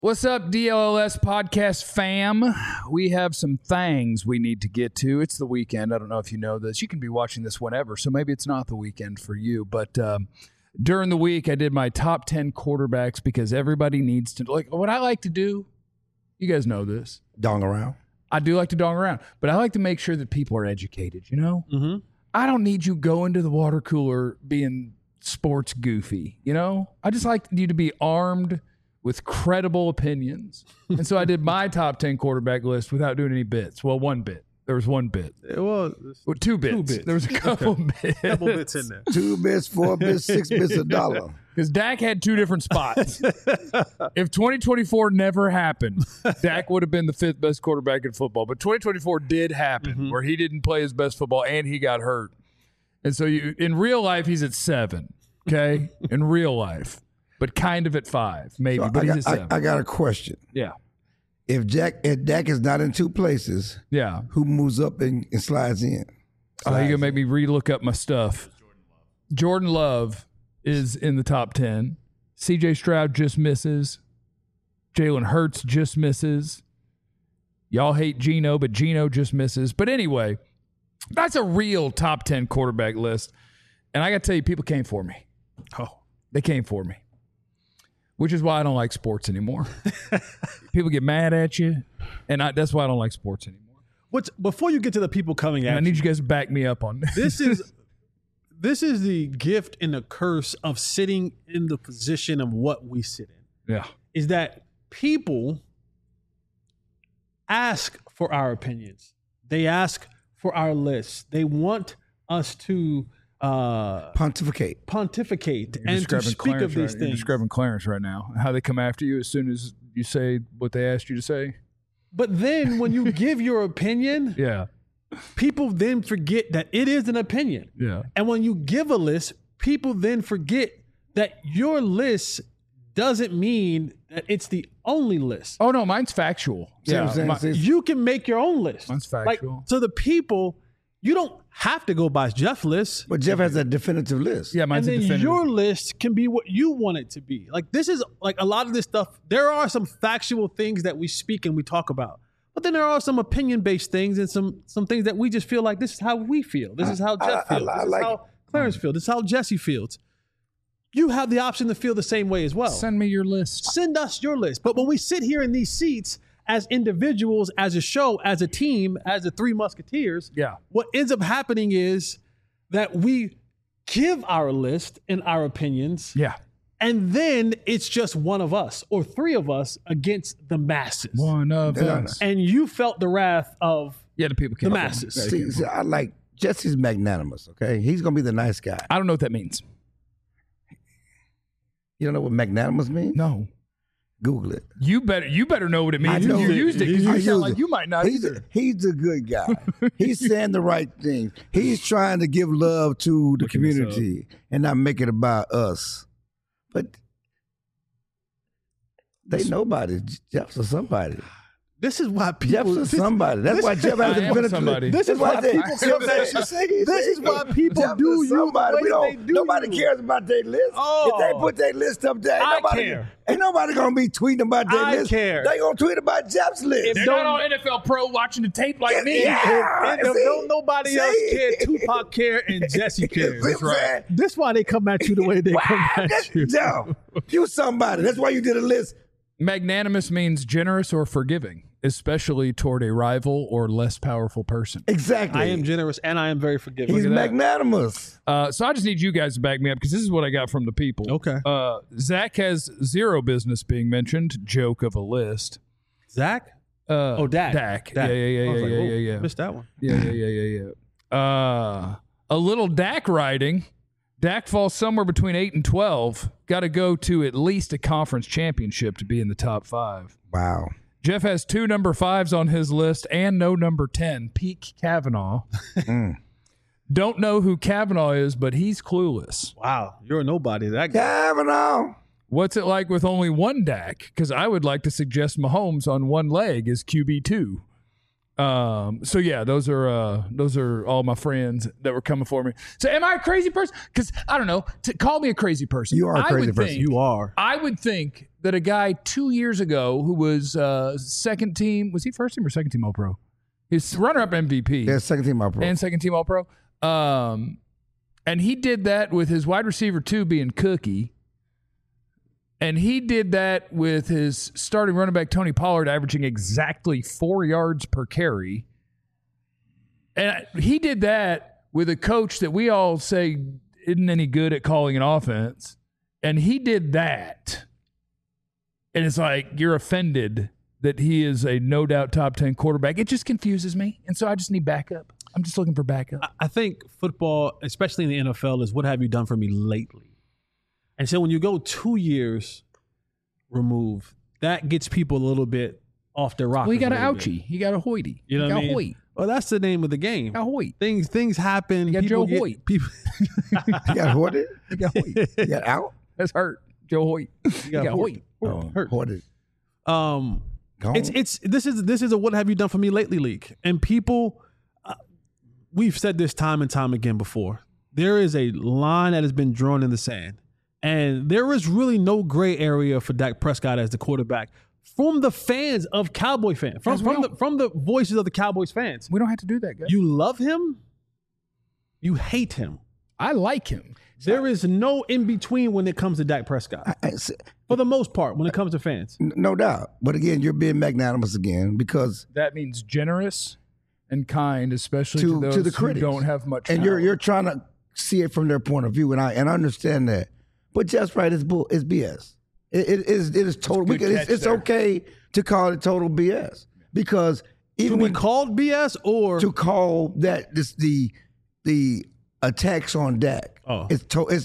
What's up, DLLS podcast fam? We have some things we need to get to. It's the weekend. I don't know if you know this. You can be watching this whenever, so maybe it's not the weekend for you. But during the week, I did my top 10 quarterbacks because everybody needs to. Like, what I like to do, you guys know this. Dong around. I do like to dong around, but I like to make sure that people are educated, you know? Mm-hmm. I don't need you going to the water cooler being sports goofy, you know? I just like you to be armed with credible opinions. And so I did my top 10 quarterback list without doing any bits. Well, one bit. There was one bit. Well, two bits. There was a couple bits. Couple bits in there. 2 bits, 4 bits, 6 bits, $1. Because Dak had two different spots. If 2024 never happened, Dak would have been the 5th best quarterback in football. But 2024 did happen, where he didn't play his best football and he got hurt. And so in real life, he's at 7, okay? In real life. But kind of at 5, maybe. So but he's at 7. I got a question. Yeah. If Dak is not in 2 places, Yeah. who moves up and slides in? Oh, you're going to make me re-look up my stuff. Jordan Love is in the top 10. C.J. Stroud just misses. Jalen Hurts just misses. Y'all hate Geno, but Geno just misses. But anyway, that's a real top 10 quarterback list. And I got to tell you, people came for me. Oh, they came for me. Which is why I don't like sports anymore. People get mad at you, and that's why I don't like sports anymore. Before you get to the people coming at I need you guys to back me up on this. This is the gift and the curse of sitting in the position of what we sit in. Yeah. Is that people ask for our opinions. They ask for our lists. They want us to pontificate and to speak Clarence, of these right? things. You're describing Clarence right now. How they come after you as soon as you say what they asked you to say. But then when you give your opinion, Yeah. people then forget that it is an opinion. Yeah. And when you give a list, people then forget that your list doesn't mean that it's the only list. Oh, no, mine's factual. See what I'm saying? You can make your own list. Mine's factual. So the people, you don't have to go by Jeff's list. But Jeff has a definitive list. Yeah, And mine's a then definitive. your list can be what you want it to be. Like, this is like a lot of this stuff. There are some factual things that we speak and we talk about. But then there are some opinion-based things and some things that we just feel like this is how we feel. This is how Jeff feels. This is how Clarence feels. This is how Jesse feels. You have the option to feel the same way as well. Send me your list. Send us your list. But when we sit here in these seats as individuals, as a show, as a team, as the Three Musketeers, Yeah. what ends up happening is that we give our list and our opinions, Yeah. and then it's just one of us or 3 of us against the masses. One of us. And you felt the wrath of Yeah, the people came the for me. masses. Yeah, they came for See, me. I like Jesse's magnanimous, okay? He's going to be the nice guy. I don't know what that means. You don't know what magnanimous means? No. Google it. You better know what it means. I know You it. used it because I you sound use like it. you might not either. He's a good guy. He's saying the right thing. He's trying to give love to the Looking this community and not make it about us. But they nobody. Jeff's a somebody. This is why people. Jeff's a somebody. That's why Jeff has I a am benefit. somebody. This is why people feel that. This is why people Jeff do is you somebody. the way they do Nobody you. cares about their list. Oh. If they put their list up there, I nobody care. Ain't nobody gonna be tweeting about their I list. care. They gonna tweet about Jeff's list. They're not on NFL Pro watching the tape like me. Yeah. If See? don't nobody else See? care, Tupac care, and Jesse cares. That's right. This why they come at you the way they come at you. Yo, you somebody. That's why you did a list. Magnanimous means generous or forgiving, especially toward a rival or less powerful person. Exactly. I am generous and I am very forgiving. He's at that. magnanimous. So I just need you guys to back me up because this is what I got from the people. Okay. Zach has zero business being mentioned. Joke of a list. Zach? Dak. Dak. Yeah. I was like, whoa, Yeah. Missed that one. Yeah. A little Dak riding. Dak falls somewhere between 8 and 12. Got to go to at least a conference championship to be in the top 5. Wow. Jeff has 2 number 5s on his list and no number 10. Peak Kavanaugh. Don't know who Kavanaugh is, but he's clueless. Wow. You're a nobody. That guy. Kavanaugh. What's it like with only one Dak? Because I would like to suggest Mahomes on one leg as QB2. So yeah, those are all my friends that were coming for me. So am I a crazy person? Because I don't know. Call me a crazy person. You are a crazy person. You are. I would think that a guy 2 years ago who was second team, was he first team or second team All Pro? He's runner-up MVP. Yeah, second team All Pro. And second team All Pro. And he did that with his wide receiver 2 being Cookie. And he did that with his starting running back, Tony Pollard, averaging exactly 4 yards per carry. And he did that with a coach that we all say isn't any good at calling an offense. And he did that. And it's like you're offended that he is a no doubt top 10 quarterback. It just confuses me. And so I just need backup. I'm just looking for backup. I think football, especially in the NFL, is what have you done for me lately? And so when you go 2 years removed, that gets people a little bit off their rockers. Well, he got an a little ouchie. bit. He got a Hoity. You know what I mean? Hoyt. Well, that's the name of the game. Got Hoyt. Things happen. You got people Joe Hoyt. People, You got Hoarded? He got Hoyt. You got out? That's hurt. Joe Hoyt. He got Hoyt. hurt. Hoarded. Gone? This is a what have you done for me lately league, and people. We've said this time and time again before. There is a line that has been drawn in the sand, and there is really no gray area for Dak Prescott as the quarterback from the fans of Cowboy fans, from the voices of the Cowboys fans. We don't have to do that, guys. You love him, you hate him. I like him. There is no in between when it comes to Dak Prescott, for the most part, when it comes to fans. No doubt. But again, you're being magnanimous again because That means generous and kind, especially to those the who critics don't have much and power. you're trying to see it from their point of view, and I understand that. But Jeff's right, it's BS. It is total. Good catch It's there. okay to call it total BS because even To when be called BS or to call that the attacks on Dak, it's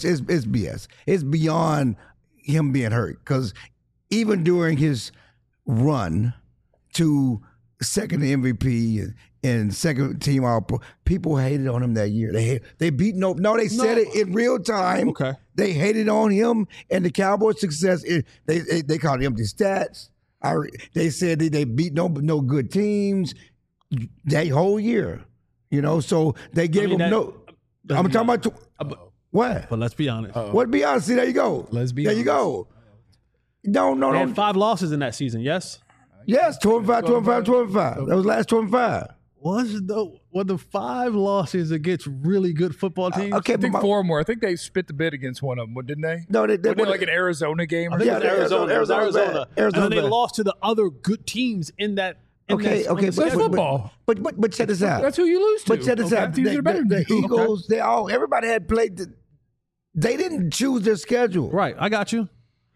BS. It's beyond him being hurt because even during his run to second MVP and second team All Pro, people hated on him that year. They beat they said it in real time. Okay. They hated on him and the Cowboys' success. They called it empty stats. They said they beat no good teams that whole year. So they gave him no. I'm talking about what? But let's be honest. What? Be honest. See, there you go. Let's be there. You go. No. They had 5 losses in that season, yes? Yes, 25. That was last 25. Were the 5 losses against really good football teams? Okay, I think 4 more. I think they spit the bid against one of them, didn't they? No, they Wasn't it like an Arizona game or I think something? it was Arizona. Arizona. And then they bad. lost to the other good teams in that. Okay, That's football. But check this out. That's who you lose to. But check this out. Teams that are better than The you. Eagles, everybody had played. They didn't choose their schedule. Right, I got you.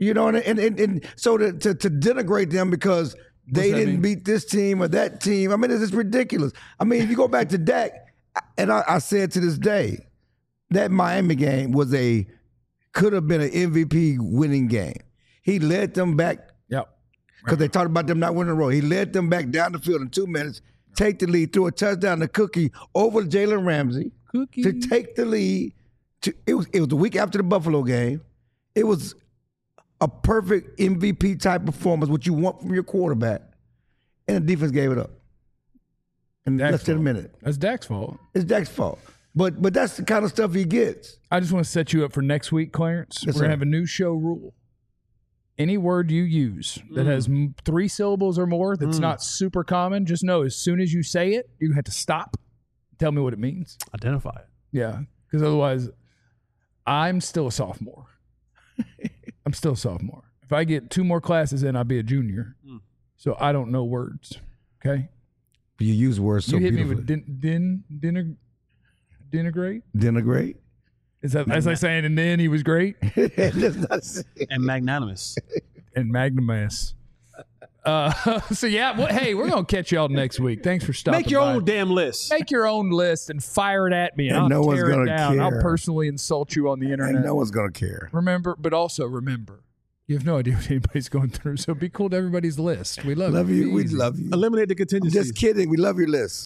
And so to denigrate them because they didn't beat this team or that team. I mean, it's just ridiculous. I mean, if you go back to Dak, and I said to this day, that Miami game could have been an MVP winning game. He led them back. Yep. Because they talked about them not winning a row. He led them back down the field in 2 minutes, take the lead, threw a touchdown to Cookie over Jalen Ramsey to take the lead. It was the week after the Buffalo game. It was a perfect MVP type performance, what you want from your quarterback, and the defense gave it up in less than a minute. That's Dak's fault. It's Dak's fault. But that's the kind of stuff he gets. I just want to set you up for next week, Clarence. Yes, We're going sir. to have a new show rule. Any word you use that has 3 syllables or more that's not super common, just know as soon as you say it, you have to stop. Tell me what it means. Identify it. Yeah, because otherwise, I'm still a sophomore. I'm still a sophomore. If I get 2 more classes in, I'll be a junior. So I don't know words. Okay? You use words so you hit beautifully. me with denigrate? Denigrate? Is that as I saying, and then he was great? That's not saying. And magnanimous. And magnanimous. So yeah, hey, we're gonna catch y'all next week. Thanks for stopping. Make your by. own damn list. Make your own list and fire it at me, and And I'll no one's tear it gonna down. care. I'll personally insult you on the internet. And no one's going to care. Remember, you have no idea what anybody's going through. So be cool to everybody's list. We love Love you. We Easy. love you. Eliminate the contingencies. Just kidding. We love your list.